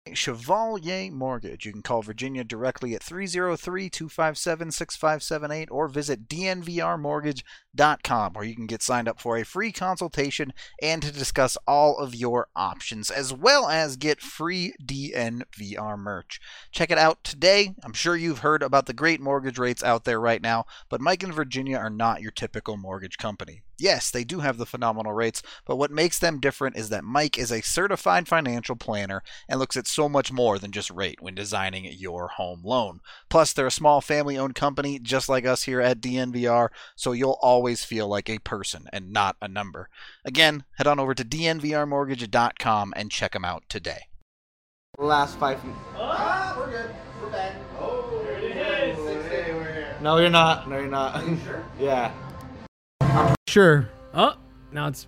Chevalier Mortgage. You can call Virginia directly at 303-257-6578 or visit dnvrmortgage.com, where you can get signed up for a free consultation and to discuss all of your options, as well as get free DNVR merch. Check it out today. I'm sure you've heard about the great mortgage rates out there right now, but Mike and Virginia are not your typical mortgage company. Yes, they do have the phenomenal rates, but what makes them different is that Mike is a certified financial planner and looks at so much more than just rate when designing your home loan. Plus, they're a small family-owned company just like us here at DNVR, so you'll always feel like a person and not a number. Again, head on over to dnvrmortgage.com and check them out today. Last 5 feet. We're good. We're back. Oh, there it is. Hey, we're here. No, you're not. No, you're not. Are you sure? Yeah. Sure. Oh, now it's...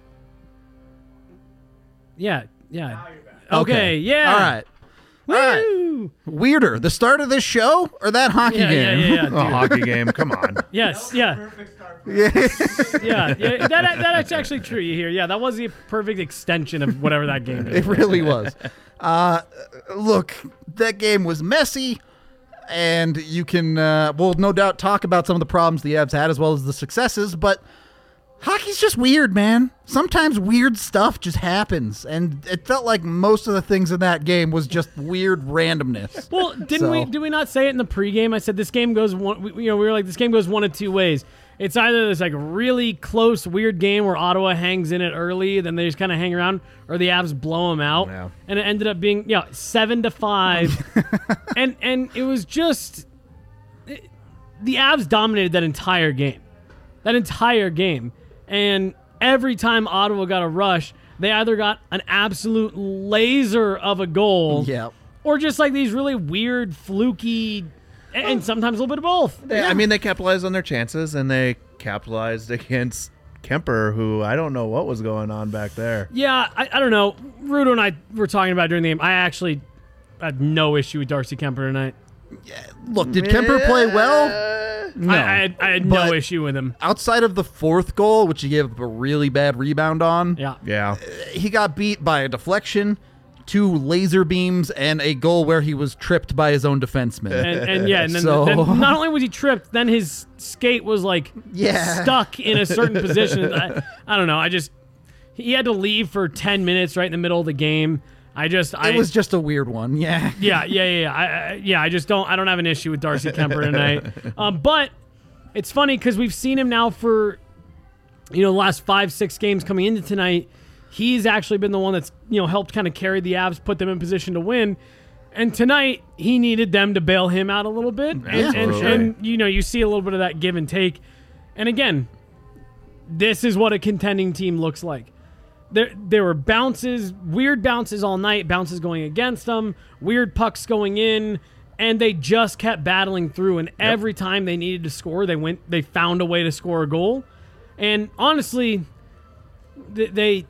Yeah. Now you're back. Okay, yeah. All right. All right. Woo! Weirder, the start of this show or that hockey game? Yeah, A dude. hockey game, come on. Yes, yeah. Perfect start. Yeah. That's actually true. You hear? Yeah, that was the perfect extension of whatever that game is. It really was. Look, that game was messy, and you can, we'll no doubt talk about some of the problems the Avs had as well as the successes, but hockey's just weird, man. Sometimes weird stuff just happens, and it felt like most of the things in that game was just weird randomness. Well, did we not say it in the pregame? I said this game goes one. We were like, this game goes one of two ways. It's either this like really close weird game where Ottawa hangs in it early, then they just kind of hang around, or the Avs blow them out, Yeah. and it ended up being 7-5, and it was just the Avs dominated that entire game, and every time Ottawa got a rush, they either got an absolute laser of a goal, Yeah. or just like these really weird, fluky, and sometimes a little bit of both. I mean, they capitalized on their chances, and they capitalized against Kemper, who I don't know what was going on back there. Yeah, I don't know. Rudo and I were talking about during the game. I actually had no issue with Darcy Kemper tonight. Look, did Kemper play well? No. I had But no issue with him. outside of the fourth goal, which he gave a really bad rebound on, Yeah. Yeah. he got beat by a deflection, 2 laser beams, and a goal where he was tripped by his own defenseman. And then, So- then not only was he tripped, then his skate was like stuck in a certain position. I don't know. He had to leave for 10 minutes right in the middle of the game. It was just a weird one, yeah. Yeah. I don't have an issue with Darcy Kemper tonight. But it's funny because we've seen him now for, the last 5-6 games coming into tonight. He's actually been the one that's, helped kind of carry the Avs, put them in position to win. And tonight, he needed them to bail him out a little bit. And you see a little bit of that give and take. And again, this is what a contending team looks like. There were bounces, weird bounces all night, bounces going against them, weird pucks going in, and they just kept battling through. And every time they needed to score, they found a way to score a goal. And honestly, they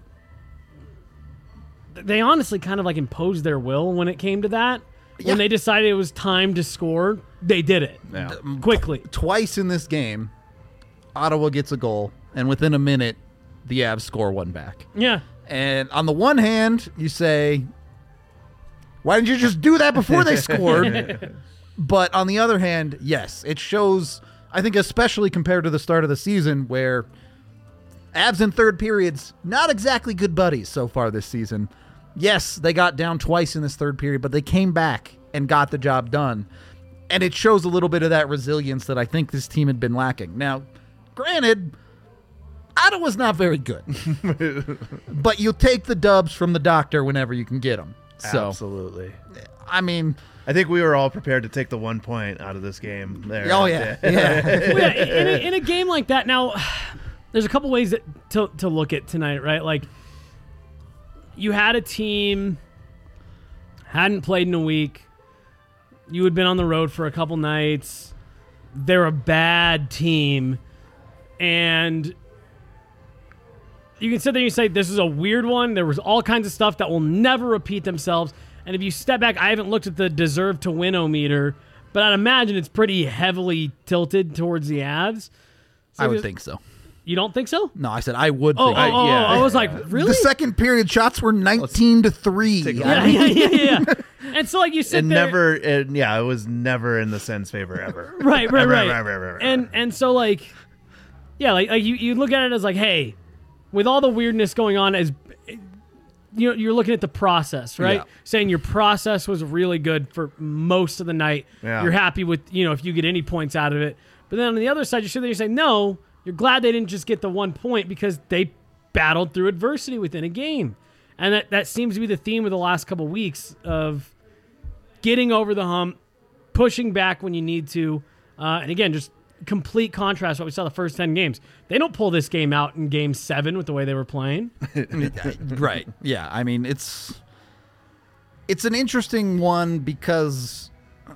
honestly kind of like imposed their will when it came to that. Yeah. When they decided it was time to score, they did it quickly. Twice in this game, Ottawa gets a goal, and within a minute, the Avs score one back. Yeah. And on the one hand, you say, why didn't you just do that before they scored? But on the other hand, yes, it shows, I think especially compared to the start of the season where Avs in third periods, not exactly good buddies so far this season. Yes, they got down twice in this third period, but they came back and got the job done. And it shows a little bit of that resilience that I think this team had been lacking. Now, granted, Ottawa's not very good. But you'll take the dubs from the doctor whenever you can get them. So, Absolutely. I mean, I think we were all prepared to take the 1 point out of this game there. oh, yeah. Yeah. Well, yeah, in a game like that, now, there's a couple ways to look at tonight, right? Like, you had a team, hadn't played in a week. You had been on the road for a couple nights. They're a bad team. And you can sit there and you say, this is a weird one. There was all kinds of stuff that will never repeat themselves. And if you step back, I haven't looked at the deserve to win-o-meter, but I'd imagine it's pretty heavily tilted towards the Avs. I would think so. You don't think so? No, I said I would. Oh, think. I was like, really? The second period shots were 19-3. Yeah. And so, like, you sit there. It was never in the Sens' favor ever. Right. Right. And so, like, yeah, like you look at it as like, hey, with all the weirdness going on, as you're looking at the process, right? Yeah. Saying your process was really good for most of the night. Yeah. You're happy with, if you get any points out of it. But then on the other side, you're sitting there, you're saying, no, you're glad they didn't just get the 1 point because they battled through adversity within a game. And that seems to be the theme of the last couple weeks of getting over the hump, pushing back when you need to. And again, just complete contrast what we saw the first 10 games. They don't pull this game out in game 7 with the way they were playing. Right. Yeah. I mean, it's an interesting one because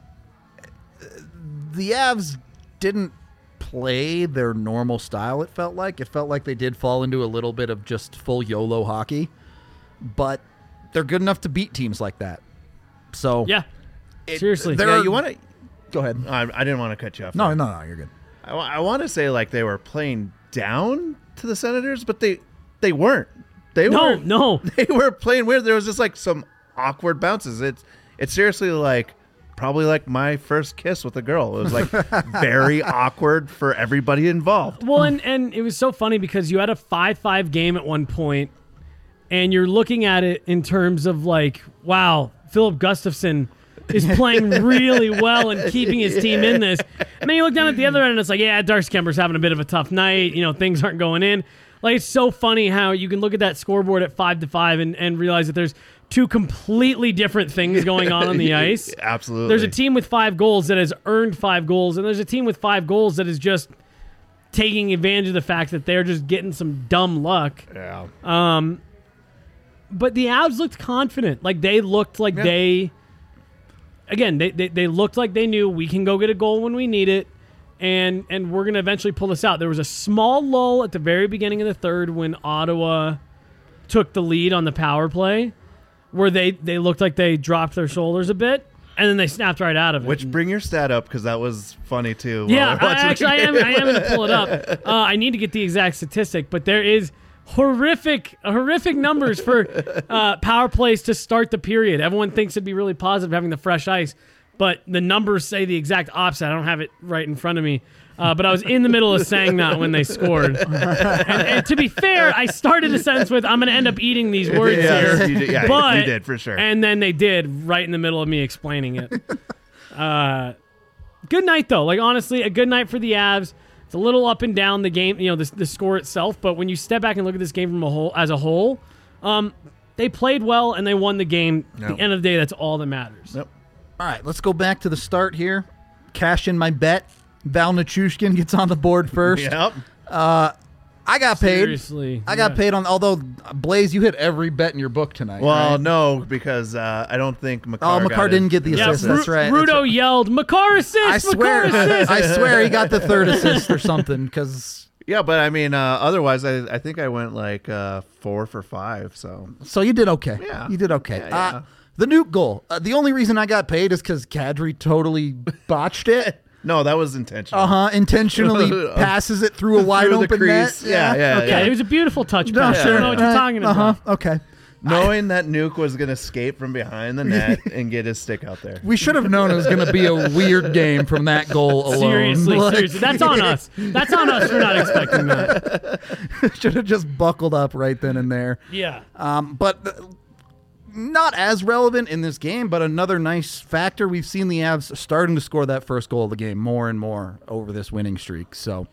the Avs didn't play their normal style. It felt like they did fall into a little bit of just full YOLO hockey, but they're good enough to beat teams like that. So yeah, seriously. You want to go ahead? I didn't want to cut you off. No, you're good. I want to say like they were playing down to the Senators, but they weren't. No. They were playing weird. There was just like some awkward bounces. It's seriously like probably like my first kiss with a girl. It was like very awkward for everybody involved. Well, and it was so funny because you had a 5-5 game at one point, and you're looking at it in terms of like, wow, Philip Gustafsson is playing really well and keeping his team in this. And then you look down at the other end and it's like, yeah, Darcy Kemper's having a bit of a tough night. Things aren't going in. Like, it's so funny how you can look at that scoreboard at 5-5 and realize that there's two completely different things going on the ice. Absolutely. There's a team with 5 goals that has earned 5 goals, and there's a team with 5 goals that is just taking advantage of the fact that they're just getting some dumb luck. Yeah. But the Avs looked confident. Like, they looked like they looked like they knew we can go get a goal when we need it, and we're going to eventually pull this out. There was a small lull at the very beginning of the third when Ottawa took the lead on the power play, where they looked like they dropped their shoulders a bit, and then they snapped right out of it. Which, bring your stat up, because that was funny, too. Yeah, I am going to pull it up. I need to get the exact statistic, but there is horrific numbers for power plays to start the period. Everyone thinks it'd be really positive having the fresh ice, but the numbers say the exact opposite. I don't have it right in front of me, but I was in the middle of saying that when they scored. And to be fair, I started a sentence with, I'm going to end up eating these words here. You did, for sure. And then they did right in the middle of me explaining it. Good night, though. Like, honestly, a good night for the Avs. It's a little up and down the game, the score itself. But when you step back and look at this game as a whole, they played well and they won the game. At the end of the day, that's all that matters. Yep. All right, let's go back to the start here. Cash in my bet. Val Nichushkin gets on the board first. Yep. I got paid. Seriously. I got paid on, although, Blaze, you hit every bet in your book tonight. Well, right? No, because I don't think Makar Oh, Makar didn't get the assist. That's right. Rudo yelled, Makar assist! Makar assist! I swear he got the third assist or something, because... Yeah, but I mean, otherwise, I think I went like 4 for 5, so... So you did okay. Yeah. You did okay. Yeah. The Nuke goal. The only reason I got paid is because Kadri totally botched it. No, that was intentional. Intentionally passes it through a wide open net. Yeah. Yeah, it was a beautiful touch No, pass. sure. I don't know what you're talking about. Okay. Knowing that Nuke was going to escape from behind the net and get his stick out there. We should have known it was going to be a weird game from that goal alone. Seriously. That's on us. That's on us for not expecting that. Should have just buckled up right then and there. Yeah. But not as relevant in this game, but another nice factor. We've seen the Avs starting to score that first goal of the game more and more over this winning streak. So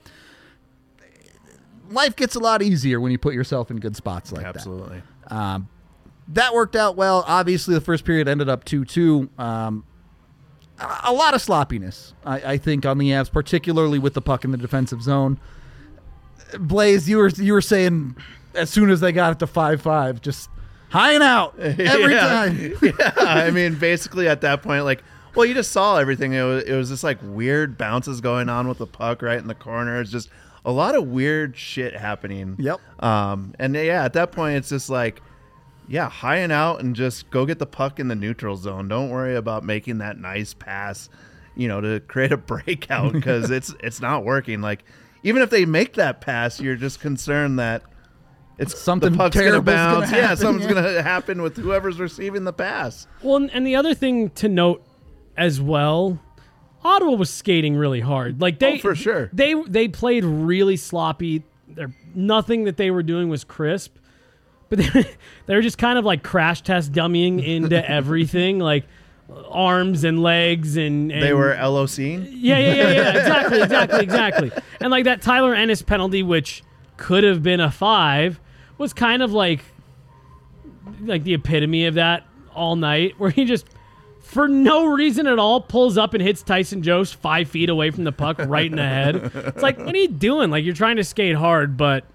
life gets a lot easier when you put yourself in good spots like that. Absolutely. That worked out well. Obviously, the first period ended up 2-2. A lot of sloppiness, I think, on the Avs, particularly with the puck in the defensive zone. Blaze, you were saying as soon as they got it to 5-5, just high and out every time. Yeah, I mean, basically at that point, like, well, you just saw everything. It was just like weird bounces going on with the puck right in the corner. It's just a lot of weird shit happening. Yep. And yeah, at that point, it's just like, yeah, high and out and just go get the puck in the neutral zone. Don't worry about making that nice pass, to create a breakout because it's not working. Like, even if they make that pass, you're just concerned that it's something the puck's terrible's gonna bounce. gonna happen, Something's gonna happen with whoever's receiving the pass. Well, and the other thing to note as well, Ottawa was skating really hard. Like for sure. They played really sloppy. Nothing that they were doing was crisp. But they were just kind of like crash test dummying into everything, like arms and legs and they were LOCing? Yeah. Exactly. And like that Tyler Ennis penalty, which could have been a 5, was kind of like the epitome of that all night, where he just, for no reason at all, pulls up and hits Tyson Jost 5 feet away from the puck right in the head. It's like, what are you doing? Like, you're trying to skate hard, but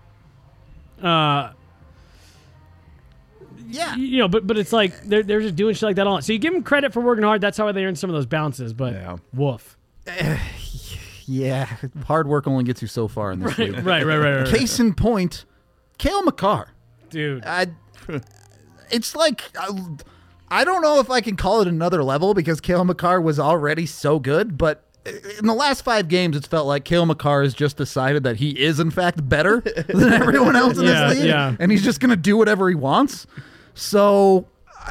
yeah, but it's like they're just doing shit like that all. So you give them credit for working hard. That's how they earn some of those bounces. But woof. Yeah, hard work only gets you so far in this league. Right. Case in point, Cale Makar. Dude. It's like, I don't know if I can call it another level because Cale Makar was already so good, but in the last 5 games, it's felt like Cale Makar has just decided that he is, in fact, better than everyone else in this league, and he's just going to do whatever he wants. So,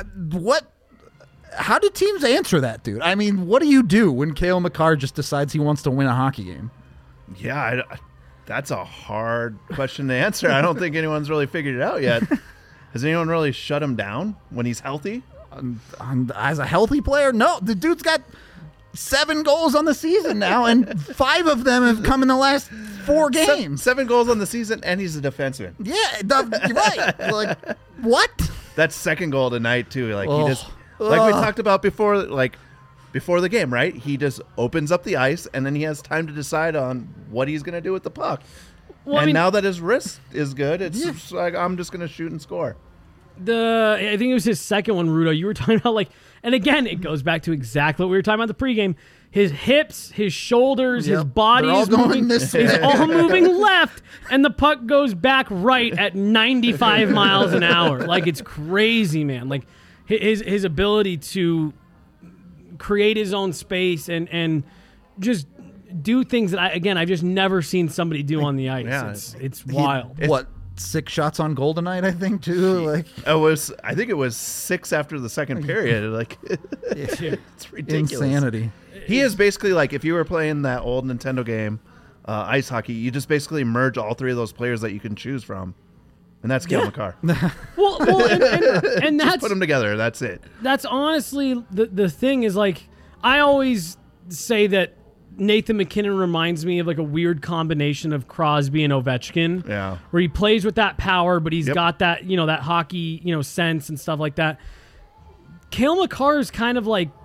how do teams answer that, dude? I mean, what do you do when Cale Makar just decides he wants to win a hockey game? Yeah, that's a hard question to answer. I don't think anyone's really figured it out yet. Has anyone really shut him down when he's healthy? As a healthy player? No, the dude's got 7 goals on the season now, and 5 of them have come in the last 4 games. 7 goals on the season, and he's a defenseman. Yeah, you're right. Like, what? That's second goal tonight, too. Like, he just, like we talked about before the game, right? He just opens up the ice, and then he has time to decide on what he's going to do with the puck. Well, now that his wrist is good, it's just like, I'm just going to shoot and score. I think it was his second one, Rudo. You were talking about, like, and again, it goes back to exactly what we were talking about the pregame. His hips, his shoulders, his body is moving. It's all moving left, and the puck goes back right at 95 miles an hour. Like, it's crazy, man. Like, his ability to create his own space and just do things that I've just never seen somebody do on the ice. Yeah, it's wild. What? 6 shots on goal tonight, I think, too. Like, I think it was 6 after the second period. Like, it's ridiculous. Insanity. He is basically like, if you were playing that old Nintendo game, ice hockey, you just basically merge all 3 of those players that you can choose from, and that's Cale Makar. well, and that's, just put them together. That's it. That's honestly the thing is, like, I always say that Nathan McKinnon reminds me of like a weird combination of Crosby and Ovechkin. Yeah. Where he plays with that power, but he's got that, that hockey, sense and stuff like that. Cale Makar is kind of like...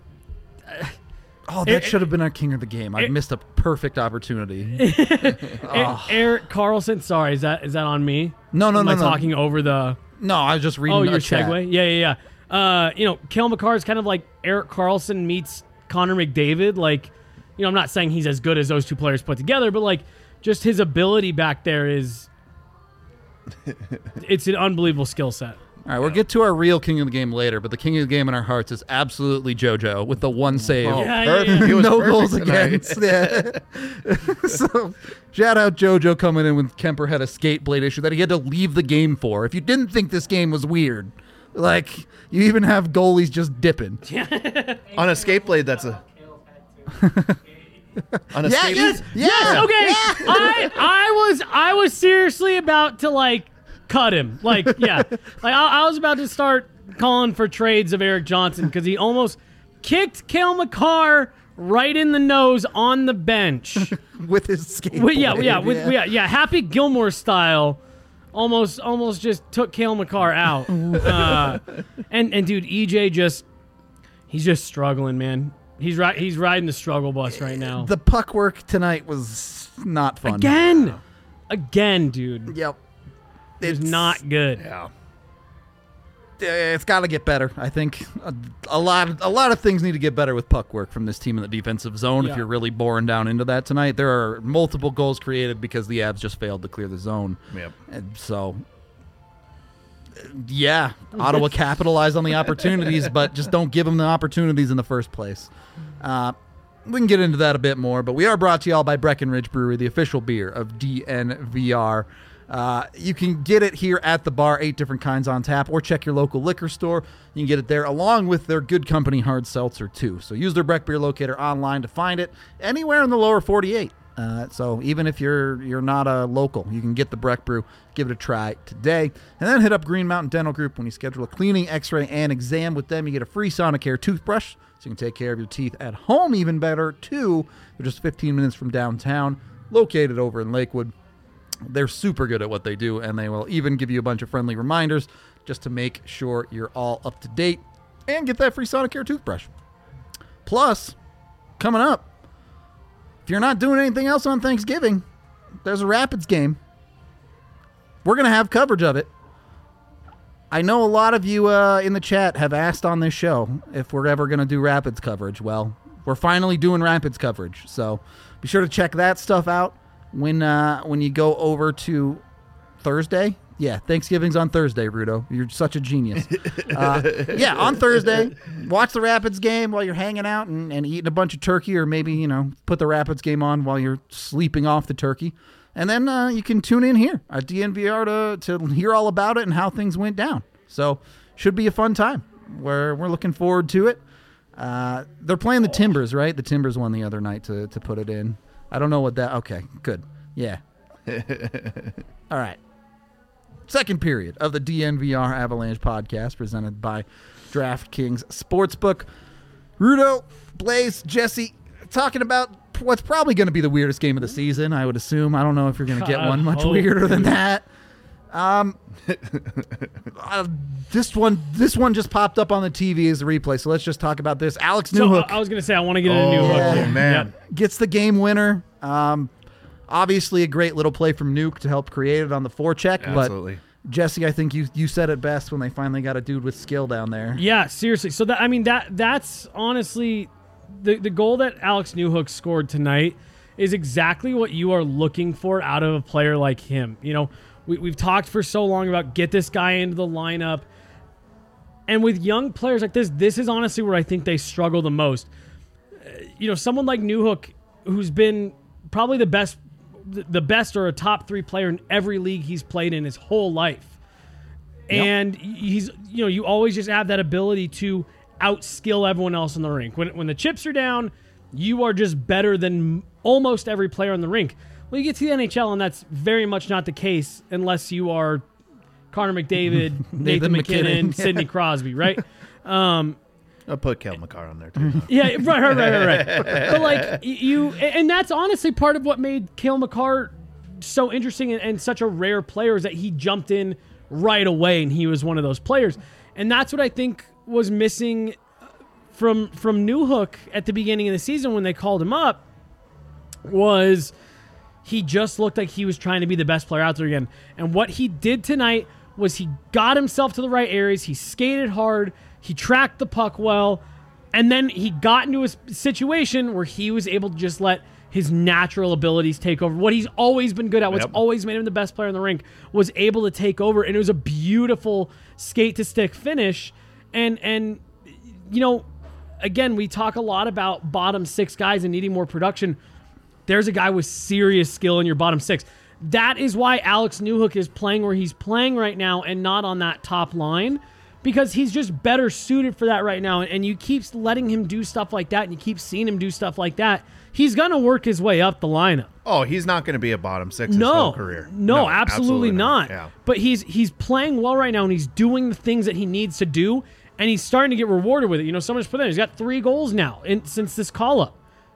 that should have been our king of the game. I missed a perfect opportunity. Erik Karlsson, sorry, is that on me? No. Am I talking over the... No, I was just reading your chat. segue? Yeah. Cale Makar is kind of like Erik Karlsson meets Connor McDavid, like... I'm not saying he's as good as those 2 players put together, but like just his ability back there is it's an unbelievable skill set. All right, we'll get to our real king of the game later, but the king of the game in our hearts is absolutely JoJo with the 1 save. Perfect. He was no perfect goals tonight. against. Yeah. So shout out JoJo coming in when Kemper had a skate blade issue that he had to leave the game for. If you didn't think this game was weird, like you even have goalies just dipping. On a skate blade, that's a... On a skate yes, okay. Yeah. I was seriously about to like cut him. Like, I was about to start calling for trades of Erik Johnson because he almost kicked Cale Makar right in the nose on the bench with his skateboard. Happy Gilmore style. Almost just took Cale Makar out. And dude, EJ he's just struggling, man. He's riding the struggle bus right now. The puck work tonight was not fun. Again, dude. Yep. It's not good. Yeah. It's got to get better. I think a lot of things need to get better with puck work from this team in the defensive zone. Yeah. If you're really boring down into that tonight, there are multiple goals created because the Avs just failed to clear the zone. Yep. And so, yeah, Ottawa capitalized on the opportunities, but just don't give them the opportunities in the first place. we can get into that a bit more, but we are brought to you all by Breckenridge Brewery, the official beer of DNVR. You can get it here at the bar, 8 different kinds on tap, or check your local liquor store. You can get it there along with their Good Company hard seltzer too. So use their Breck Beer Locator online to find it anywhere in the lower 48. So even if you're not a local, you can get the Breck Brew, give it a try today. And then hit up Green Mountain Dental Group when you schedule a cleaning, x-ray, and exam with them. You get a free Sonicare toothbrush so you can take care of your teeth at home even better too. They're just 15 minutes from downtown, located over in Lakewood. They're super good at what they do, and they will even give you a bunch of friendly reminders just to make sure you're all up to date and get that free Sonicare toothbrush. Plus, coming up, if you're not doing anything else on Thanksgiving, there's a Rapids game. We're going to have coverage of it. I know a lot of you in the chat have asked on this show if we're ever going to do Rapids coverage. Well, we're finally doing Rapids coverage, so be sure to check that stuff out. When you go over to Thursday, Thanksgiving's on Thursday, Rudo. You're such a genius. On Thursday, watch the Rapids game while you're hanging out and eating a bunch of turkey, or maybe, put the Rapids game on while you're sleeping off the turkey. And then you can tune in here at DNVR to hear all about it and how things went down. So should be a fun time. We're looking forward to it. They're playing the Timbers, right? The Timbers won the other night to put it in. I don't know what that... Okay, good. Yeah. All right. Second period of the DNVR Avalanche podcast presented by DraftKings Sportsbook. Rudo, Blaze, Jesse, talking about what's probably going to be the weirdest game of the season, I would assume. I don't know if you're going to get one much weirder than that. This one just popped up on the TV as a replay, so let's just talk about this. Alex Newhook. I was going to say, I want to get into Newhook. Oh, man. Gets the game winner. Obviously a great little play from Nuke to help create it on the forecheck. Absolutely. But Jesse, I think you said it best when they finally got a dude with skill down there. Yeah, seriously. So that's honestly the goal that Alex Newhook scored tonight is exactly what you are looking for out of a player like him. We've talked for so long about get this guy into the lineup. And with young players like this is honestly where I think they struggle the most. Someone like Newhook, who's been probably the best or a top 3 player in every league he's played in his whole life. Yep. And he's, you always just have that ability to outskill everyone else in the rink. When the chips are down, you are just better than almost every player in the rink. Well, you get to the NHL, and that's very much not the case unless you are Connor McDavid, Nathan McKinnon, Sidney Crosby, right? I'll put Cale Makar on there, too. Yeah, right. But, and that's honestly part of what made Cale Makar so interesting and such a rare player is that he jumped in right away, and he was one of those players. And that's what I think was missing from Newhook at the beginning of the season when they called him up was he just looked like he was trying to be the best player out there again. And what he did tonight was he got himself to the right areas. He skated hard. He tracked the puck well. And then he got into a situation where he was able to just let his natural abilities take over. What he's always been good at, what's always made him the best player in the rink, was able to take over. And it was a beautiful skate-to-stick finish. And again, we talk a lot about bottom 6 guys and needing more production. There's a guy with serious skill in your bottom 6. That is why Alex Newhook is playing where he's playing right now and not on that top line, because he's just better suited for that right now. And you keep letting him do stuff like that, and you keep seeing him do stuff like that, he's going to work his way up the lineup. Oh, he's not going to be a bottom 6 his whole career. No, absolutely not. Yeah. But he's playing well right now, and he's doing the things that he needs to do, and he's starting to get rewarded with it. Someone just put in, he's got 3 goals now since this call-up.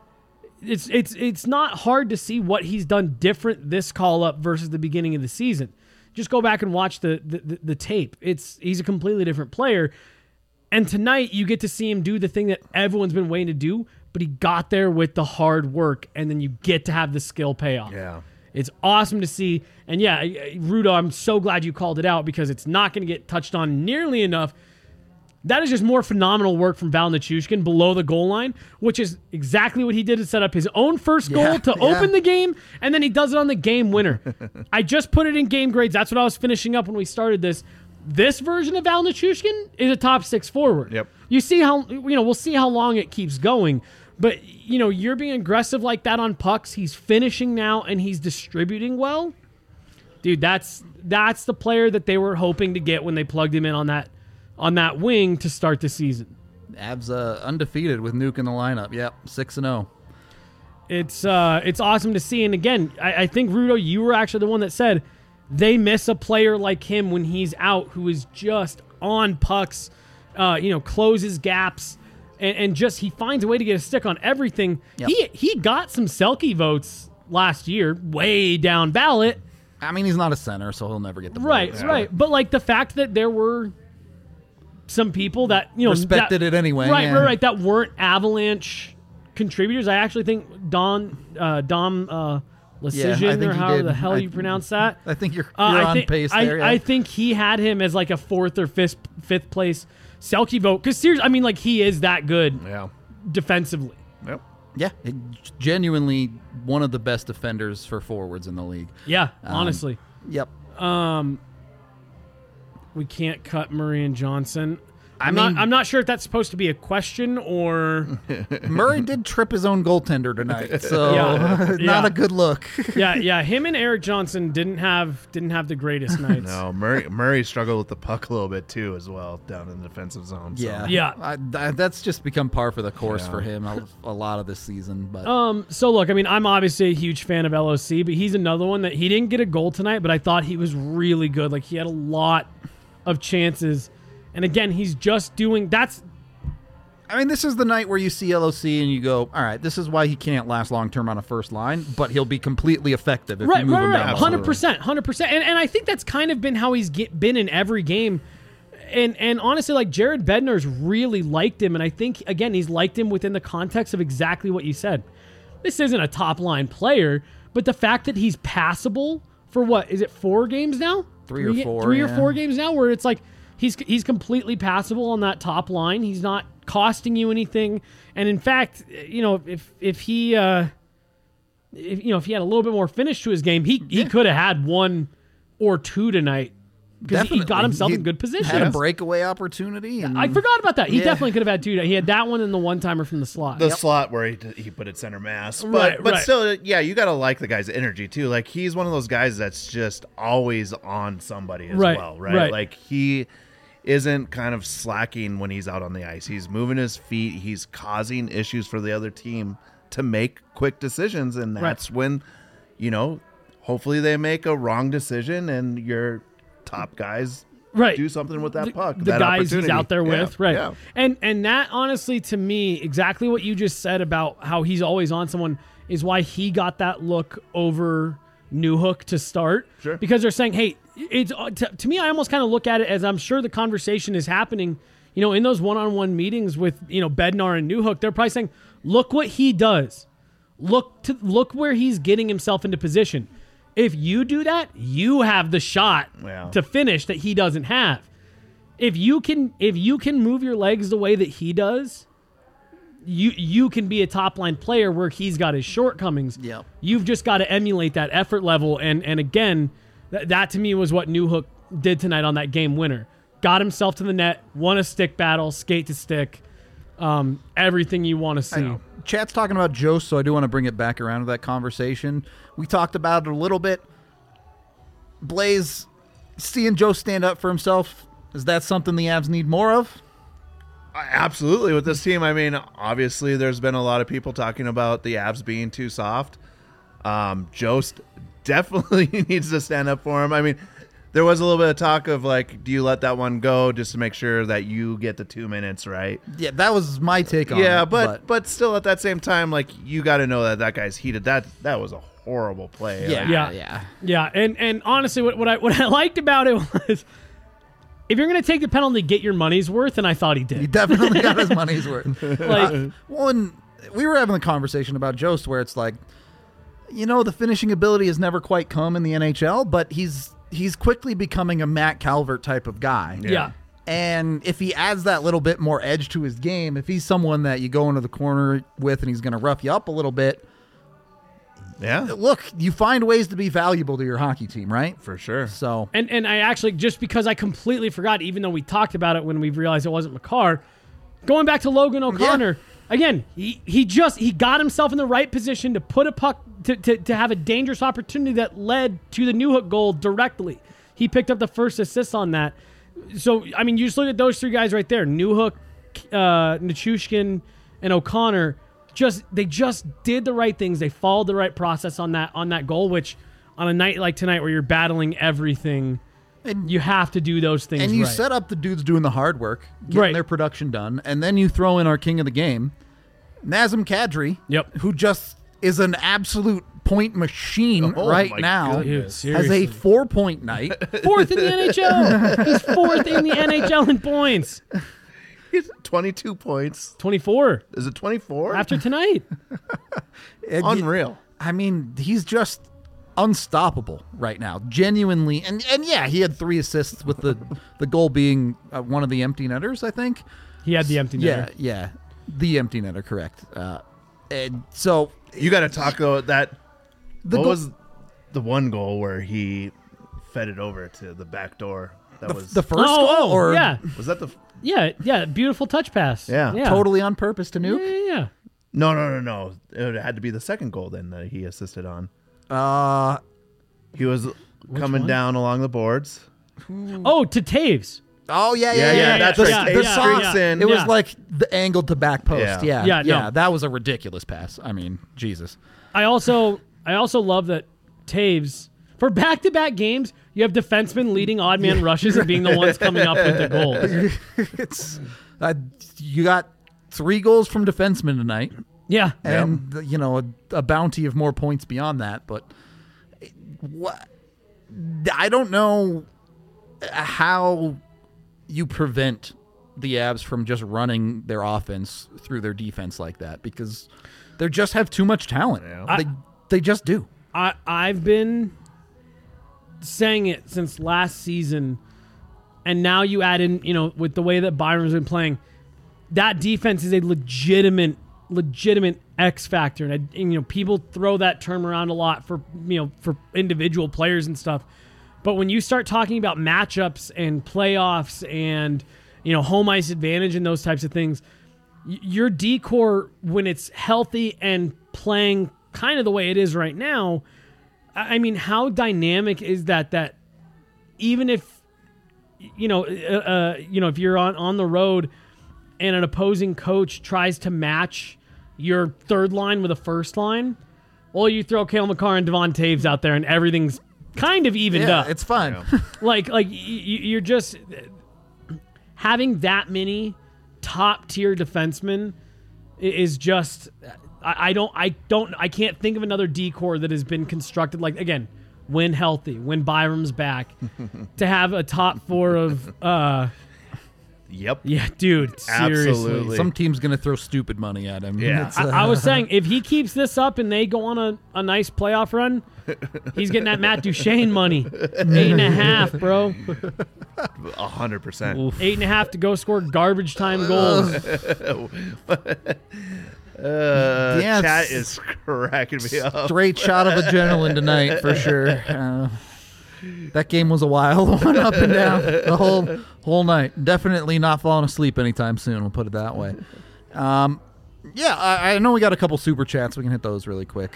It's not hard to see what he's done different this call-up versus the beginning of the season. Just go back and watch the tape. He's a completely different player. And tonight, you get to see him do the thing that everyone's been waiting to do, but he got there with the hard work, and then you get to have the skill payoff. Yeah. It's awesome to see. And yeah, Rudo, I'm so glad you called it out because it's not going to get touched on nearly enough. That is just more phenomenal work from Val Nichushkin below the goal line, which is exactly what he did to set up his own first goal to open the game, and then he does it on the game winner. I just put it in game grades. That's what I was finishing up when we started this. This version of Val Nichushkin is a top 6 forward. Yep. You see how we'll see how long it keeps going, But, you're being aggressive like that on pucks. He's finishing now, and he's distributing well. Dude, that's the player that they were hoping to get when they plugged him in on that wing to start the season. Avs undefeated with Nuke in the lineup. Yep, 6-0. It's awesome to see. And again, I think, Rudo, you were actually the one that said they miss a player like him when he's out, who is just on pucks, closes gaps, and just he finds a way to get a stick on everything. Yep. He got some Selke votes last year, way down ballot. I mean, he's not a center, so he'll never get the right, votes. Right. But like the fact that there were some people that respected it anyway, right, that weren't Avalanche contributors. I actually think Dom Lecision, or however the hell you pronounce that. I think you're on pace there. Yeah. I think he had him as like a fourth or fifth place Selke vote. Because seriously, I mean, like he is that good defensively. Yep. Yeah, genuinely one of the best defenders for forwards in the league. Yeah, honestly. Yep. We can't cut Murray and Johnson. I'm not sure if that's supposed to be a question or... Murray did trip his own goaltender tonight, so not a good look. yeah. Him and Eric Johnson didn't have the greatest nights. No, Murray struggled with the puck a little bit too, as well, down in the defensive zone. So. Yeah. That's just become par for the course for him a lot of this season. But so look, I mean, I'm obviously a huge fan of LOC, but he's another one that he didn't get a goal tonight, but I thought he was really good. Like he had a lot of chances. And again, he's just doing that's. I mean, this is the night where you see LOC and you go, all right, this is why he can't last long term on a first line, but he'll be completely effective if you move him down. 100%. And I think that's kind of been how he's been in every game. And honestly, like Jared Bednar's really liked him, and I think again he's liked him within the context of exactly what you said. This isn't a top line player, but the fact that he's passable for what is it 4 games now? Three or 4 games now, where it's like. He's completely passable on that top line. He's not costing you anything. And in fact, if he had a little bit more finish to his game, he could have had 1 or 2 tonight because he got himself in good position. Had a breakaway opportunity. And I forgot about that. He definitely could have had 2. He had that one and the one-timer from the slot. The slot where he put it center mass. But still, you got to like the guy's energy too. Like he's one of those guys that's just always on somebody as well, right? Like he isn't kind of slacking when he's out on the ice. He's moving his feet. He's causing issues for the other team to make quick decisions. And that's when, hopefully they make a wrong decision and your top guys do something with that puck. The guys he's out there with. Right. Yeah. And that honestly, to me, exactly what you just said about how he's always on someone is why he got that look over Newhook to start. Sure. Because they're saying, hey, it's to me, I almost kind of look at it as I'm sure the conversation is happening, in those one-on-one meetings with, Bednar and Newhook. They're probably saying, look what he does. Look where he's getting himself into position. If you do that, you have the shot to finish that he doesn't have. If you can move your legs the way that he does, you can be a top-line player where he's got his shortcomings. Yep. You've just got to emulate that effort level. And again, that to me was what Newhook did tonight on that game winner. Got himself to the net, won a stick battle, skate to stick, everything you want to see. Chat's talking about Jost, so I do want to bring it back around to that conversation. We talked about it a little bit. Blaze, seeing Jost stand up for himself, is that something the Avs need more of? Absolutely, with this team. I mean, obviously, there's been a lot of people talking about the Avs being too soft. Jost definitely needs to stand up for him. I mean, there was a little bit of talk of like, do you let that one go just to make sure that you get the 2 minutes, right? Yeah, that was my take on it. Yeah, but still at that same time, like you got to know that guy's heated. That was a horrible play. Yeah. And honestly, what I liked about it was, if you're going to take the penalty, get your money's worth, and I thought he did. He definitely got his money's worth. We were having a conversation about Jost where it's like, the finishing ability has never quite come in the NHL, but he's quickly becoming a Matt Calvert type of guy. Yeah. And if he adds that little bit more edge to his game, if he's someone that you go into the corner with and he's going to rough you up a little bit, look, you find ways to be valuable to your hockey team, right? For sure. So and I actually, just because I completely forgot, even though we talked about it when we realized it wasn't Makar, going back to Logan O'Connor, again, he got himself in the right position to put a puck to have a dangerous opportunity that led to the Newhook goal directly. He picked up the first assist on that. So, I mean, you just look at those three guys right there, Newhook, Nichushkin, and O'Connor. They just did the right things. They followed the right process on that goal, which on a night like tonight where you're battling everything, and you have to do those things. And you right. set up the dudes doing the hard work, getting their production done, and then you throw in our king of the game, Nazem Kadri, who just is an absolute point machine right now. Dude, has a 4-point night. Fourth in the NHL. He's fourth in the NHL in points. He's 22 points. 24. Is it 24? After tonight. Unreal. I mean, he's just unstoppable right now. Genuinely. And yeah, he had 3 assists with the goal being one of the empty netters, I think. He had the empty netter. Yeah. The empty netter, correct. And so you got to talk about that. What was the one goal where he fed it over to the back door? That was the first goal? Or yeah. Was that the... Yeah, beautiful touch pass. Yeah. Totally on purpose to Nuke? Yeah. No. It had to be the second goal then that he assisted on. He was coming down along the boards. Oh, to Taves. Oh, yeah. That's right. It was like the angled to back post. Yeah. No. That was a ridiculous pass. I mean, Jesus. I also love that Taves, for back-to-back games, you have defensemen leading odd man rushes and being the ones coming up with the goals. You got 3 goals from defensemen tonight. Yeah. And, a bounty of more points beyond that. But I don't know how you prevent the Avs from just running their offense through their defense like that, because they just have too much talent. They just do. I've been saying it since last season, and now you add in, with the way that Byram's been playing, that defense is a legitimate X factor, and people throw that term around a lot for individual players and stuff. But when you start talking about matchups and playoffs and home ice advantage and those types of things, your D-core, when it's healthy and playing kind of the way it is right now, I mean, how dynamic is that? That even if if you're on the road and an opposing coach tries to match your third line with a first line, well, you throw Cale Makar and Devon Taves out there, and everything's kind of evened up. It's fun. Yeah. You're just having that many top tier defensemen is just. I can't think of another D-core that has been constructed like, again, when healthy, when Byram's back, to have a top 4 of. Yep. Yeah, dude. Seriously. Absolutely. Some team's gonna throw stupid money at him. Yeah. I was saying, if he keeps this up and they go on a nice playoff run, he's getting that Matt Duchene money. 8.5, bro. 100%. 8.5 to go score garbage time goals. Chat is cracking me up. Straight shot of adrenaline tonight for sure. That game was a wild one, up and down the whole night. Definitely not falling asleep anytime soon. We'll put it that way. I know we got a couple super chats. We can hit those really quick.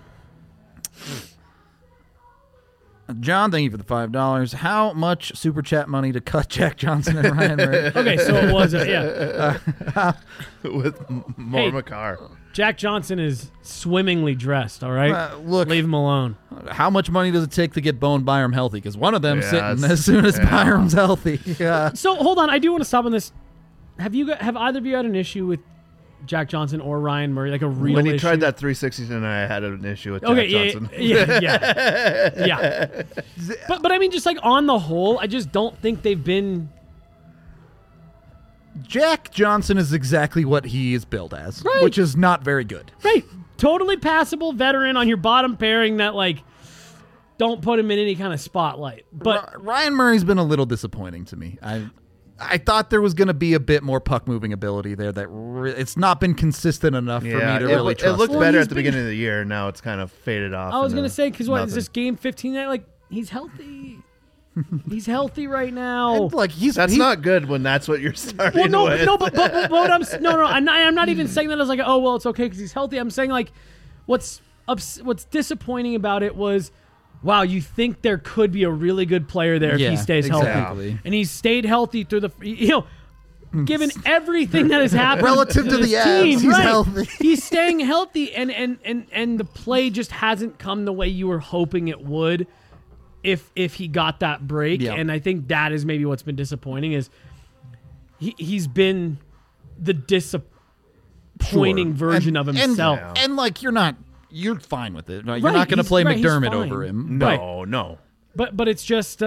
John, thank you for the $5. How much super chat money to cut Jack Johnson and Ryan Murray? Okay, so it was with more Makar. Jack Johnson is swimmingly dressed. All right, look, leave him alone. How much money does it take to get Bo and Byram healthy? Because one of them sitting as soon as Byram's healthy. Yeah. So hold on, I do want to stop on this. Have either of you had an issue with Jack Johnson or Ryan Murray, like a real when he issue? tried that 360 tonight, I had an issue with Jack Johnson. Yeah. But I mean, just like on the whole, I just don't think they've been. Jack Johnson is exactly what he is billed as, right, which is not very good. Right. Totally passable veteran on your bottom pairing that, like, don't put him in any kind of spotlight. But Ryan Murray's been a little disappointing to me. I thought there was going to be a bit more puck moving ability there. It's not been consistent enough for me to really trust. It looked better at the beginning of the year. Now it's kind of faded off. I was going to say, because is this game 15 night? Like, he's healthy. He's healthy right now. And, like That's not good when that's what you're starting with. I'm not even saying that as like, oh well, it's okay because he's healthy. I'm saying like, what's disappointing about it was, wow, you think there could be a really good player there if he stays healthy, and he's stayed healthy through the given everything that has happened relative to the Avs, he's healthy. He's staying healthy, and the play just hasn't come the way you were hoping it would if he got that break. Yep. And I think that is maybe what's been disappointing is he's been the disappointing version of himself. And like you're fine with it. Right? You're not going to play McDermott over him. No. But it's just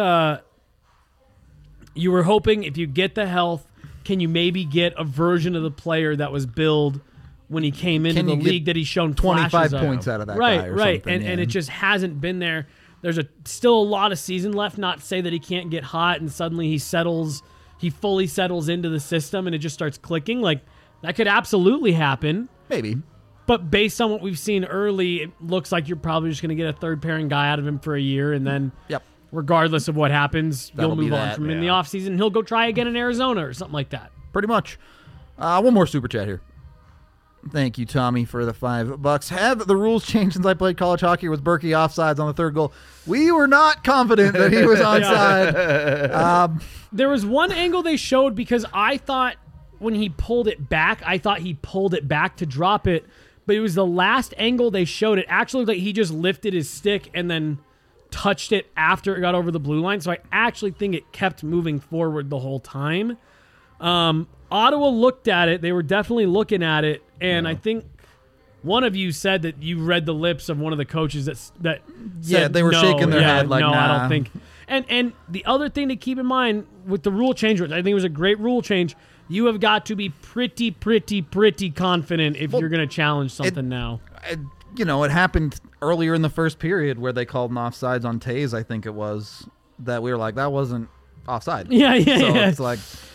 you were hoping if you get the health, can you maybe get a version of the player that was billed when he came into the league that he's shown 25 points out of that guy or something. And it just hasn't been there. There's still a lot of season left, not to say that he can't get hot and suddenly he fully settles into the system and it just starts clicking. Like, that could absolutely happen. Maybe. But based on what we've seen early, it looks like you're probably just going to get a third pairing guy out of him for a year and then regardless of what happens, you'll move on from him in the offseason. He'll go try again in Arizona or something like that. Pretty much. One more super chat here. Thank you, Tommy, for the $5. Have the rules changed since I played college hockey? Was Berkey offsides on the third goal? We were not confident that he was onside. There was one angle they showed because I thought when he pulled it back, to drop it, but it was the last angle they showed. It actually looked like he just lifted his stick and then touched it after it got over the blue line. So I actually think it kept moving forward the whole time. Ottawa looked at it. They were definitely looking at it. And I think one of you said that you read the lips of one of the coaches that said, they were shaking their head like, no, nah. I don't think. And the other thing to keep in mind with the rule change, which I think it was a great rule change, you have got to be pretty confident if you're going to challenge something now. It happened earlier in the first period where they called an offsides on Taze, I think it was, that we were like, that wasn't offside. It's like...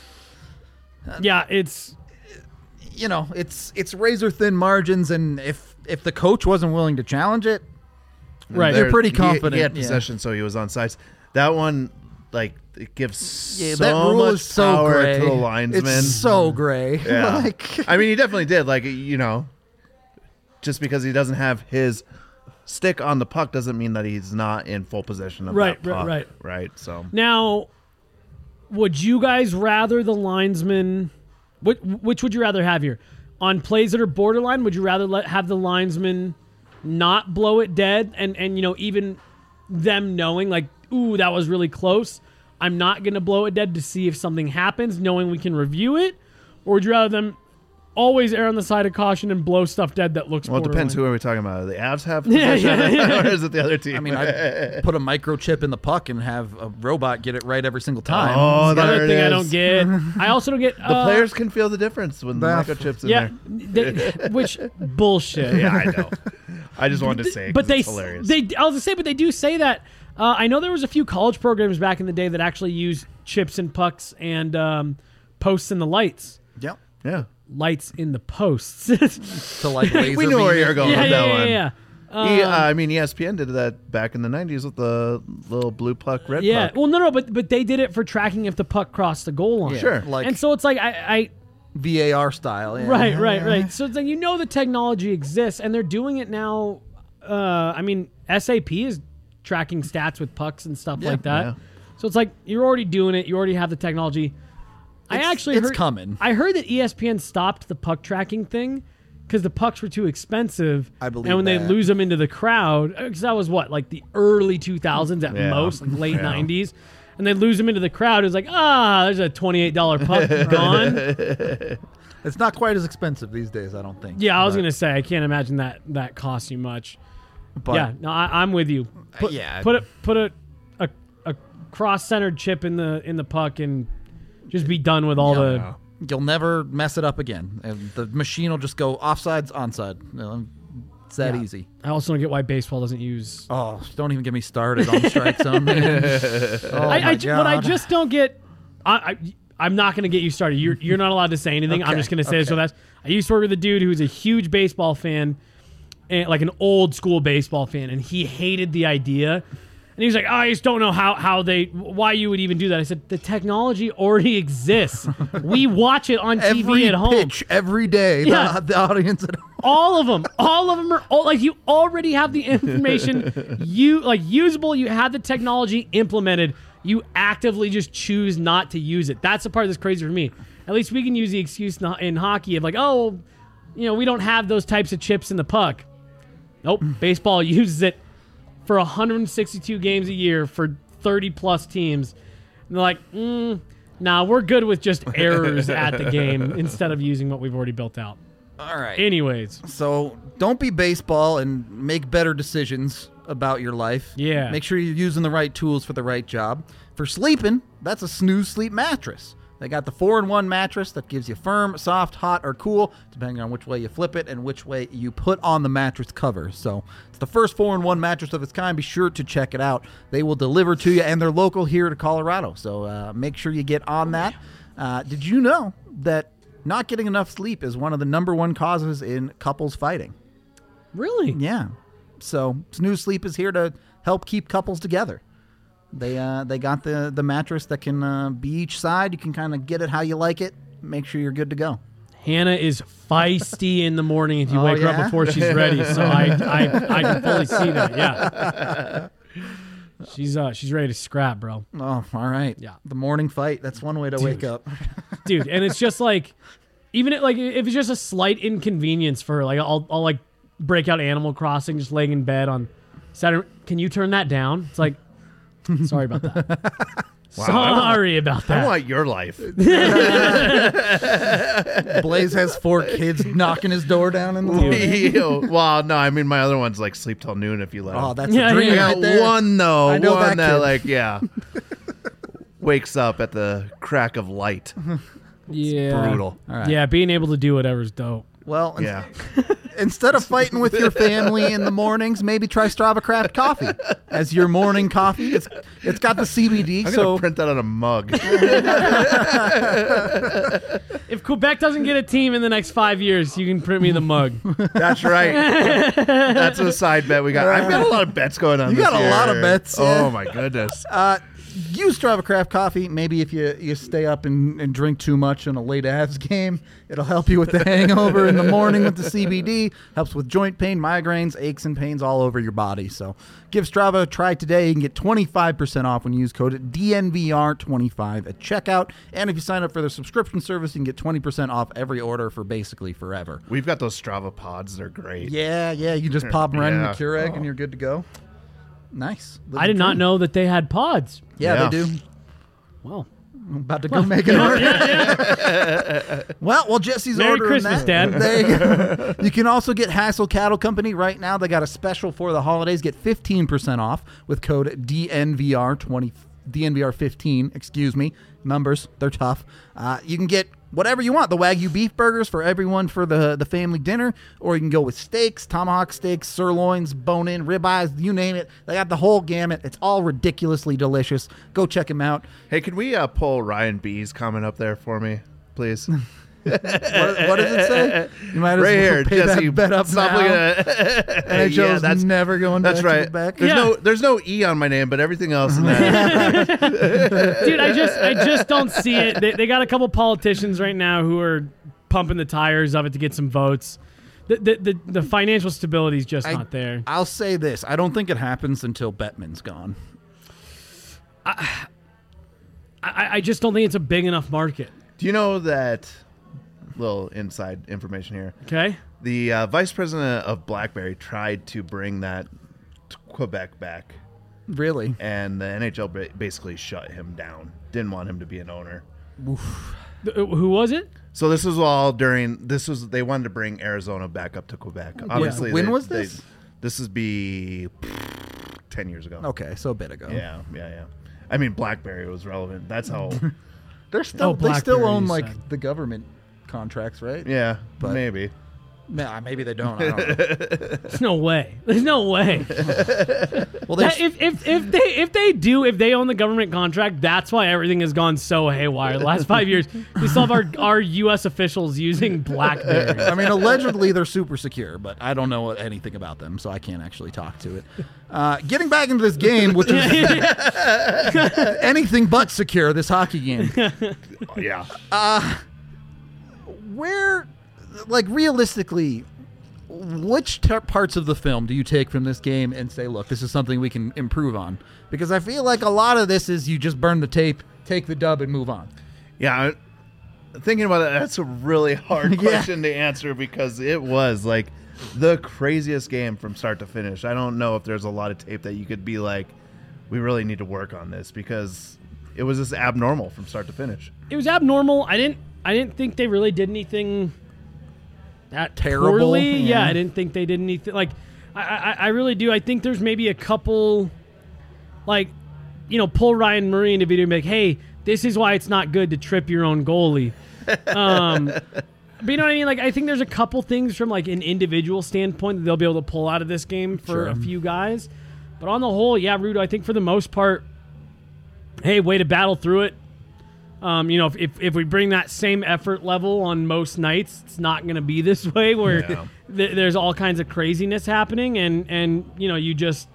it's razor thin margins, and if the coach wasn't willing to challenge it, they're pretty confident. He had possession, so he was on sides. That one, like, it gives so that rule much is so power gray. to the linesman. It's so gray. Yeah. I mean, he definitely did. Like, just because he doesn't have his stick on the puck doesn't mean that he's not in full possession of that puck. Right. So now, would you guys rather the linesman? Which would you rather have here? On plays that are borderline, would you rather have the linesman not blow it dead and even them knowing like, ooh, that was really close, I'm not going to blow it dead to see if something happens, knowing we can review it? Or would you rather them always err on the side of caution and blow stuff dead that looks borderline? Well, it depends who are we talking about. The Avs have possession or is it the other team? I mean, I'd put a microchip in the puck and have a robot get it right every single time. Oh, that's the other thing I don't get. I also don't get... the players can feel the difference when the microchip's in there. Which bullshit. Yeah, I know. I just wanted to say it because it's hilarious. I was going to say, but they do say that. I know there was a few college programs back in the day that actually used chips and pucks and posts in the lights. Yep. Yeah. Lights in the posts. So like laser we knew where you were going with that one. Yeah. I mean, ESPN did that back in the 90s with the little blue puck, red puck. Yeah. Well, no, but they did it for tracking if the puck crossed the goal line. Yeah. Sure. And so it's like I VAR style. Yeah. Right. So it's like the technology exists, and they're doing it now. I mean, SAP is tracking stats with pucks and stuff like that. Yeah. So it's like you're already doing it. You already have the technology. It's coming. I heard that ESPN stopped the puck tracking thing because the pucks were too expensive. I believe and when they lose them into the crowd, because that was like the early 2000s at most, like late 90s, and they lose them into the crowd. It's like, there's a $28 puck gone. It's not quite as expensive these days, I don't think. Yeah, I was gonna say I can't imagine that costs you much. But yeah, no, I'm with you. Put a cross-centered chip in the puck and just be done with all the... You'll never mess it up again. And the machine will just go offsides, onside. It's that easy. I also don't get why baseball doesn't use... Oh, don't even get me started on the strike zone, man. What I just don't get... I'm not going to get you started. You're not allowed to say anything. Okay, I'm just going to say this. So I used to work with a dude who was a huge baseball fan, and like an old school baseball fan, and he hated the idea And he was like, I just don't know why you would even do that. I said, the technology already exists. We watch it on TV at home. Pitch every day. Yeah. The audience at home. All of them are like, you already have the information, usable. You have the technology implemented. You actively just choose not to use it. That's the part that's crazy for me. At least we can use the excuse in hockey of like, oh, we don't have those types of chips in the puck. Nope. Baseball uses it for 162 games a year for 30-plus teams. And they're like, nah, we're good with just errors at the game instead of using what we've already built out. All right. Anyways. So don't be baseball and make better decisions about your life. Yeah. Make sure you're using the right tools for the right job. For sleeping, that's a Snooze Sleep mattress. They got the 4-in-1 mattress that gives you firm, soft, hot, or cool, depending on which way you flip it and which way you put on the mattress cover. So it's the first 4-in-1 mattress of its kind. Be sure to check it out. They will deliver to you, and they're local here to Colorado. So make sure you get on that. Did you know that not getting enough sleep is one of the number one causes in couples fighting? Really? Yeah. So Snooze Sleep is here to help keep couples together. They got the mattress that can be each side. You can kind of get it how you like it. Make sure you're good to go. Hannah is feisty in the morning if you wake her up before she's ready. So I can fully see that. Yeah. She's ready to scrap, bro. Oh, all right. Yeah. The morning fight. That's one way to wake up. Dude, and it's just like, even if it's just a slight inconvenience for her, like I'll like break out Animal Crossing, just laying in bed on Saturday. Can you turn that down? It's like, sorry about that. Wow, Sorry about that. I want your life. Blaze has 4 kids knocking his door down in the morning. Well, no, I mean my other one's like sleep till noon if you let him. Oh, that's a dream I got right there. one though. I know one that kid. wakes up at the crack of light. Yeah. Brutal. All right. Yeah, being able to do whatever's dope. Well, Yeah. instead of fighting with your family in the mornings, maybe try Strava Craft Coffee as your morning coffee. It's got the CBD, I'm so gonna print that on a mug. If Quebec doesn't get a team in the next 5 years, you can print me the mug. That's right. That's a side bet we got. I've got a lot of bets going on. You this got a year. lot of bets, yeah. Oh my goodness. use Strava Craft Coffee. Maybe if you stay up and drink too much in a late Avs game, it'll help you with the hangover in the morning with the CBD. Helps with joint pain, migraines, aches and pains all over your body. So give Strava a try today. You can get 25% off when you use code DNVR25 at checkout. And if you sign up for the subscription service, you can get 20% off every order for basically forever. We've got those Strava pods. They're great. Yeah. You just pop them right in the Yeah. Keurig and you're good to go. Nice. I did not know that they had pods. Yeah, they do. Well, I'm about to go make an order. Well, Jesse's Merry ordering Christmas, that. Dad. There you go. You can also get Hassel Cattle Company right now. They got a special for the holidays. Get 15% off with code DNVR20. DNVR15, excuse me. Numbers, they're tough. You can get whatever you want. The Wagyu beef burgers for everyone for the family dinner, or you can go with steaks, tomahawk steaks, sirloins, bone-in, ribeyes, you name it. They got the whole gamut. It's all ridiculously delicious. Go check them out. Hey, can we pull Ryan B's comment up there for me, please? What does it say? You might as Right well here, pay Jesse. that bet up Stop now. looking at NHL's that's never going That's back right. to the back. There's no E on my name, but everything else in that. dude, I just don't see it. They got a couple politicians right now who are pumping the tires of it to get some votes. The financial stability is just not there. I'll say this. I don't think it happens until Bettman's gone. I just don't think it's a big enough market. Do you know that? Little inside information here. Okay. The vice president of BlackBerry tried to bring that to Quebec back, Really? and the NHL basically shut him down. Didn't want him to be an owner. Who was it? So this was all during. They wanted to bring Arizona back up to Quebec. Obviously, When was this? This would be 10 years ago. Okay, so a bit ago. Yeah. I mean, BlackBerry was relevant. That's how. They still BlackBerry, own you like said. the government contracts, right? Yeah, But- maybe. Nah, maybe they don't. I don't know. There's no way. There's no way. Well, if they own the government contract, that's why everything has gone so haywire. The last 5 years, we still have our U.S. officials using BlackBerry. I mean, allegedly they're super secure, but I don't know anything about them, so I can't actually talk to it. Getting back into this game, which is anything but secure, this hockey game. Yeah. Where, like, realistically, which parts of the film do you take from this game and say, look, this is something we can improve on? Because I feel like a lot of this is you just burn the tape, take the dub, and move on. Yeah, thinking about it, that's a really hard question to answer because it was like the craziest game from start to finish. I don't know if there's a lot of tape that you could be like, we really need to work on this because it was just abnormal from start to finish. It was abnormal. I didn't think they really did anything that terrible. Poorly. Yeah, I didn't think they did anything. Like, I really do. I think there's maybe a couple, like, pull Ryan Murray into video and be like, hey, this is why it's not good to trip your own goalie. But you know what I mean? Like, I think there's a couple things from, like, an individual standpoint that they'll be able to pull out of this game for a few guys. But on the whole, yeah, Rudo, I think for the most part, hey, way to battle through it. If we bring that same effort level on most nights, it's not going to be this way where there's all kinds of craziness happening, and you just.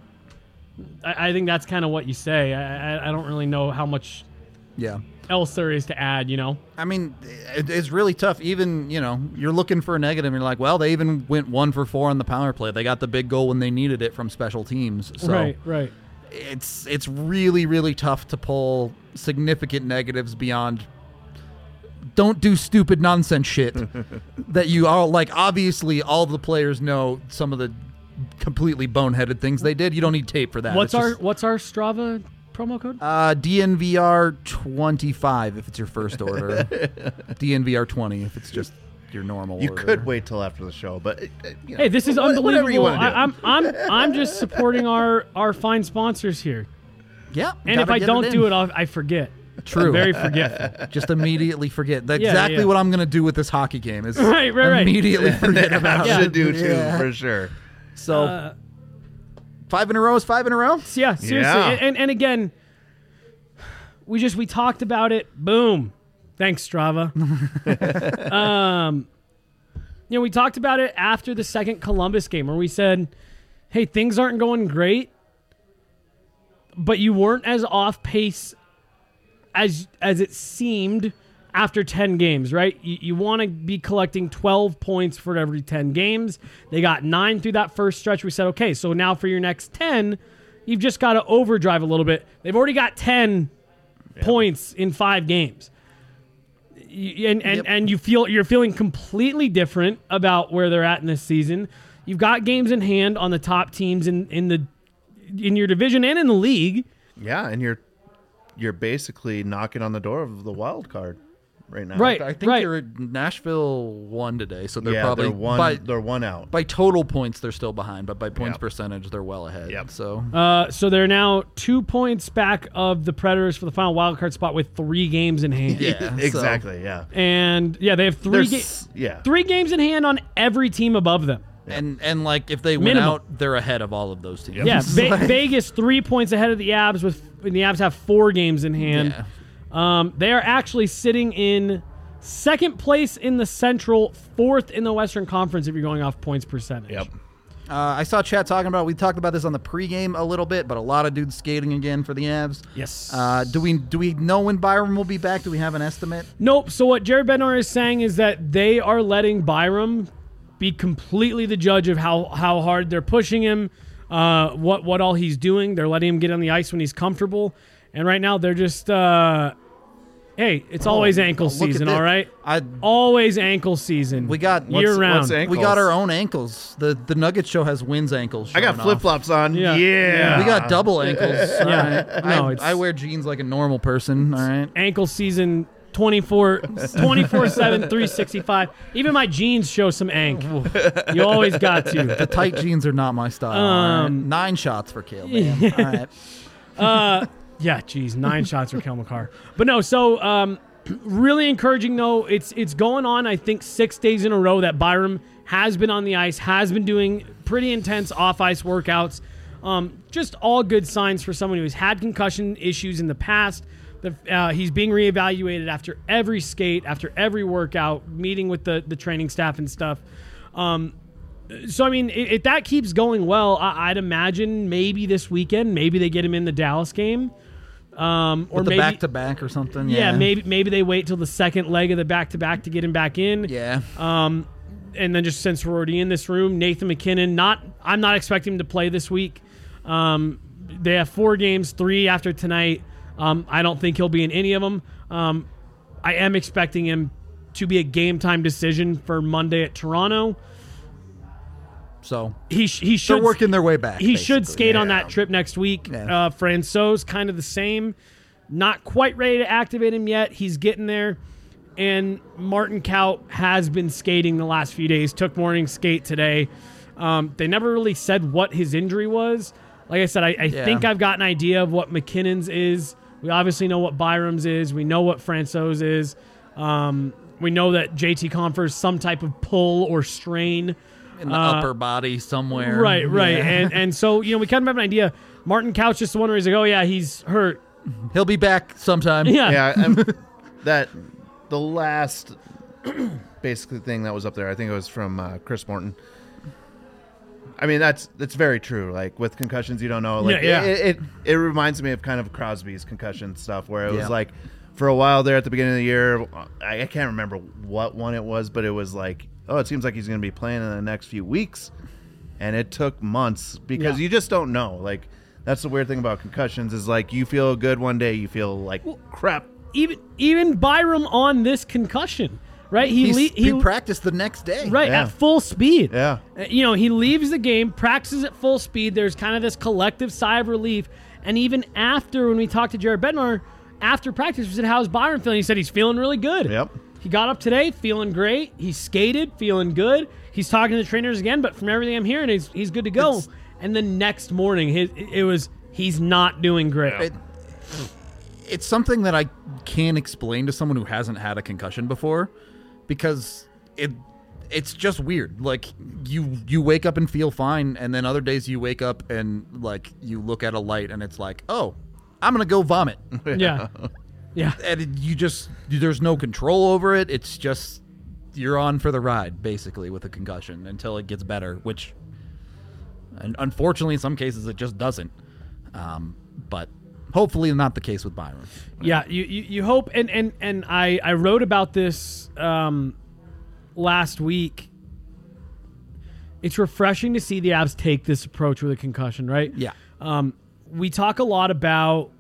I think that's kind of what you say. I don't really know how much. Else there is to add. I mean, it's really tough. Even you're looking for a negative. And you're like, well, they even went 1 for 4 on the power play. They got the big goal when they needed it from special teams. So right. It's really, really tough to pull significant negatives beyond don't do stupid nonsense shit that you all like. Obviously, all the players know some of the completely boneheaded things they did. You don't need tape for that. What's our Strava promo code? DNVR 25 if it's your first order. DNVR 20 if it's just your normal you order. Could wait till after the show, but hey, this is unbelievable. You want to do. I'm just supporting our fine sponsors here. Yeah, and if I don't do it, I forget. True. I'm very forgetful. Just immediately forget. That's exactly what I'm going to do with this hockey game. Is right. Immediately forget about it. I should do too, for sure. So 5 in a row is 5 in a row. Yeah, seriously. Yeah. And again, we talked about it. Boom. Thanks, Strava. We talked about it after the second Columbus game where we said, hey, things aren't going great, but you weren't as off pace as it seemed after 10 games, right? You want to be collecting 12 points for every 10 games. They got 9 through that first stretch. We said, okay, so now for your next 10, you've just got to overdrive a little bit. They've already got 10 points in 5 games. And you're feeling completely different about where they're at in this season. You've got games in hand on the top teams in your division and in the league. Yeah, and you're basically knocking on the door of the wild card right now. Right. I think Nashville won today, so they're probably they're one out. By total points, they're still behind, but by points percentage, they're well ahead. Yep. So they're now 2 points back of the Predators for the final wild card spot with 3 games in hand. Yeah, exactly. Yeah, and they have 3 games in hand on every team above them. And like if they win out, they're ahead of all of those teams. Yeah, Vegas 3 points ahead of the Avs when the Avs have 4 games in hand. Yeah. They are actually sitting in second place in the Central, 4th in the Western Conference if you're going off points percentage. Yep. I saw chat talking about, we talked about this on the pregame a little bit, but a lot of dudes skating again for the Avs. Yes. Do we know when Byram will be back? Do we have an estimate? Nope. So what Jared Bednar is saying is that they are letting Byram be completely the judge of how hard they're pushing him, what all he's doing. They're letting him get on the ice when he's comfortable. And right now they're just, hey, it's always ankle season, all right? Always ankle season. We got year-round. We got our own ankles. The Nuggets show has Wins ankles. I got flip-flops on. Yeah. We got double ankles. Yeah. Right. I wear jeans like a normal person, all right? Ankle season 24/7, 365. Even my jeans show some ank. You always got to. The tight jeans are not my style. All right? 9 shots for Cale, man. All right. Yeah, geez, 9 shots for Cale Makar. But no, so Really encouraging, though. It's going on, I think, 6 days in a row that Byram has been on the ice, has been doing pretty intense off-ice workouts. Just all good signs for someone who's had concussion issues in the past. He's being reevaluated after every skate, after every workout, meeting with the training staff and stuff. So, I mean, if that keeps going well, I'd imagine maybe this weekend, maybe they get him in the Dallas game. Or With the maybe back-to-back or something. Yeah, maybe they wait till the second leg of the back-to-back to get him back in. Yeah. And then just since we're already in this room, Nathan MacKinnon, I'm not expecting him to play this week. They have 4 games, 3 after tonight. I don't think he'll be in any of them. I am expecting him to be a game-time decision for Monday at Toronto. So he should. They're working their way back. He should basically. skate on that trip next week. Yeah. Franco's kind of the same. Not quite ready to activate him yet. He's getting there. And Martin Kaut has been skating the last few days. Took morning skate today. They never really said what his injury was. Like I said, I think I've got an idea of what McKinnon's is. We obviously know what Byram's is. We know what Franco's is. We know that JT Compher's some type of pull or strain in the upper body somewhere. Right. Yeah. And so, we kind of have an idea. Martin Kaut's just the one where he's like, oh, yeah, he's hurt. He'll be back sometime. Yeah. The last basically thing that was up there, I think it was from Chris Morton. I mean, that's very true. Like with concussions, you don't know. Like it reminds me of kind of Crosby's concussion stuff, where it was like for a while there at the beginning of the year, I can't remember what one it was, but it was like, oh, it seems like he's going to be playing in the next few weeks, and it took months because you just don't know. Like that's the weird thing about concussions is like you feel good one day, you feel like crap. Even Byram on this concussion. Right, he practiced the next day. Right, at full speed. Yeah, he leaves the game, practices at full speed. There's kind of this collective sigh of relief. And even after, when we talked to Jared Bednar after practice, we said, "How's Byram feeling?" He said he's feeling really good. Yep. He got up today, feeling great. He skated, feeling good. He's talking to the trainers again, but from everything I'm hearing, he's good to go. And the next morning, he's not doing great. It's something that I can't explain to someone who hasn't had a concussion before. Because it's just weird. Like you wake up and feel fine, and then other days you wake up and like you look at a light and it's like, oh, I'm gonna go vomit. Yeah. And there's no control over it. It's just you're on for the ride basically with a concussion until it gets better. Which, and unfortunately, in some cases it just doesn't. But hopefully not the case with Byram. Yeah, you hope, and I wrote about this last week. It's refreshing to see the Avs take this approach with a concussion, right? Yeah. We talk a lot about,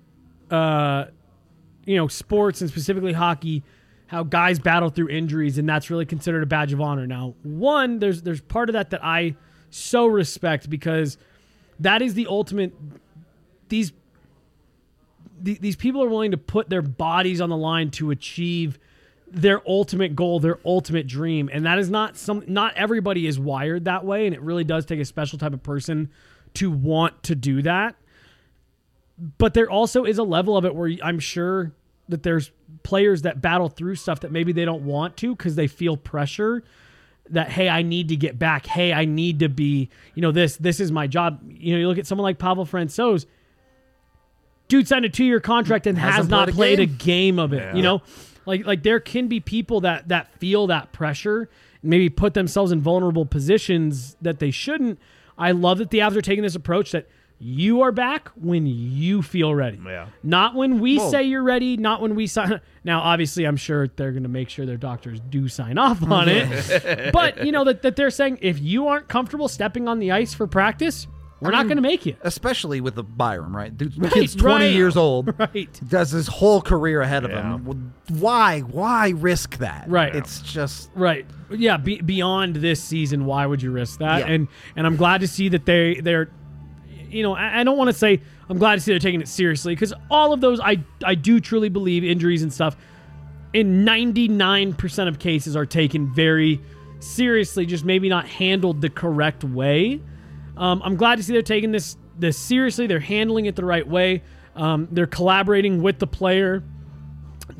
sports and specifically hockey, how guys battle through injuries, and that's really considered a badge of honor. Now, one, there's part of that I so respect because that is the ultimate. These people are willing to put their bodies on the line to achieve their ultimate goal, their ultimate dream. And that is not everybody is wired that way. And it really does take a special type of person to want to do that. But there also is a level of it where I'm sure that there's players that battle through stuff that maybe they don't want to because they feel pressure that, hey, I need to get back. Hey, I need to be, this is my job. You look at someone like Pavel Francouz. Dude signed a 2-year contract and has not played a game of it. Yeah. Like there can be people that feel that pressure, maybe put themselves in vulnerable positions that they shouldn't. I love that the Avs are taking this approach that you are back when you feel ready. Yeah. Not when we say you're ready, not when we sign. Now, obviously, I'm sure they're going to make sure their doctors do sign off on it. But, that they're saying if you aren't comfortable stepping on the ice for practice, we're not going to make you. Especially with the Byram, right? The kid's 20 years old. Right. Does his whole career ahead of him. Why risk that? Right. It's just... Right. Yeah, beyond this season, why would you risk that? Yeah. And I'm glad to see that they're... I don't want to say I'm glad to see they're taking it seriously because all of those, I do truly believe injuries and stuff in 99% of cases are taken very seriously, just maybe not handled the correct way. I'm glad to see they're taking this seriously. They're handling it the right way. They're collaborating with the player.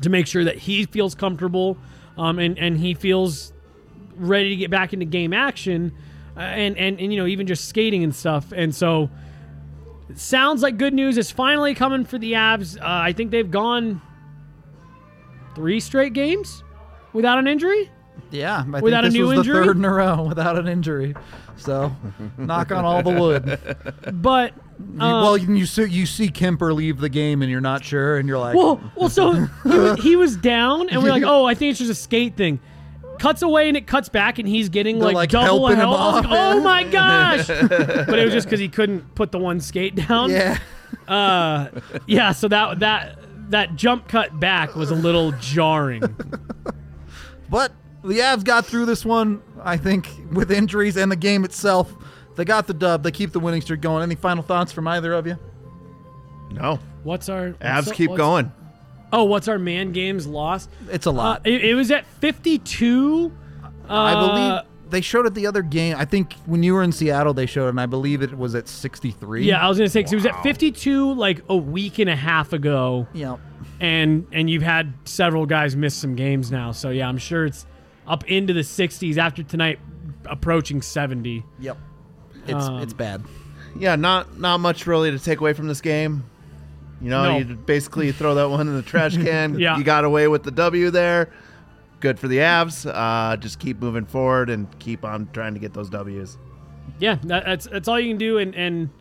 to make sure that he feels comfortable and he feels ready to get back into game action and even just skating and stuff. And so it sounds like good news is finally coming for the Avs. I think they've gone 3 straight games without an injury. Yeah, I without think this a new was injury? the 3rd in a row without an injury. So, knock on all the wood. But you see Kemper leave the game, and you're not sure, and you're like, so he was down, and we're like, oh, I think it's just a skate thing. Cuts away, and it cuts back, and he's getting like double helping help. him I was like, off. oh my gosh! But it was just because he couldn't put the one skate down. Yeah. So that jump cut back was a little jarring. But the Avs got through this one, I think, with injuries and the game itself. They got the dub. They keep the winning streak going. Any final thoughts from either of you? No. Avs keep going. Oh, what's our man games loss? It's a lot. It was at 52. I believe they showed it the other game. I think when you were in Seattle, they showed it, and I believe it was at 63. Yeah, I was going to say, because it was at 52 like a week and a half ago. Yeah. And you've had several guys miss some games now. So, yeah, I'm sure it's up into the 60s after tonight, approaching 70. Yep. It's bad. Yeah, not much really to take away from this game. You basically throw that one in the trash can. Yeah. You got away with the W there. Good for the Avs. Just keep moving forward and keep on trying to get those Ws. Yeah, that's all you can do, and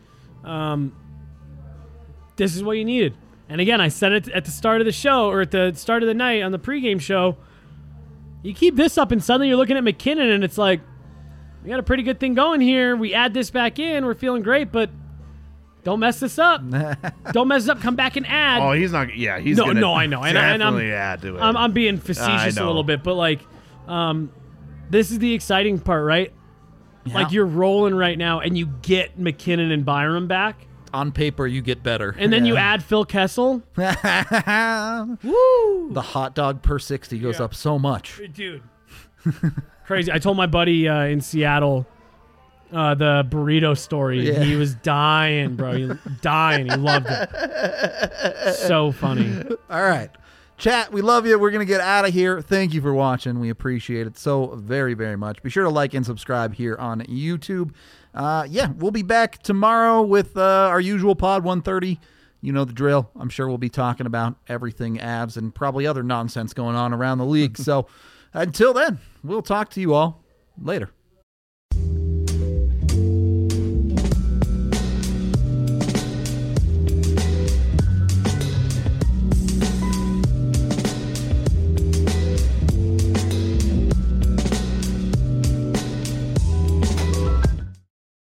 this is what you needed. And again, I said it at the start of the show, or at the start of the night on the pregame show. You keep this up, and suddenly you're looking at McKinnon, and it's like, we got a pretty good thing going here. We add this back in, we're feeling great, but don't mess this up. Don't mess it up. Come back and add. Oh, he's not. Yeah, he's no, gonna no, I know, and I'm add to it. I'm being facetious a little bit, but like, this is the exciting part, right? Yeah. Like you're rolling right now, and you get McKinnon and Byram back. On paper, you get better. And then you add Phil Kessel. Woo! The hot dog per 60 goes up so much. Dude. Crazy. I told my buddy in Seattle the burrito story. Yeah. He was dying, bro. He loved it. So funny. All right. Chat, we love you. We're going to get out of here. Thank you for watching. We appreciate it so very, very much. Be sure to like and subscribe here on YouTube. We'll be back tomorrow with our usual pod, 1:30. You know the drill. I'm sure we'll be talking about everything Avs and probably other nonsense going on around the league. So until then, we'll talk to you all later.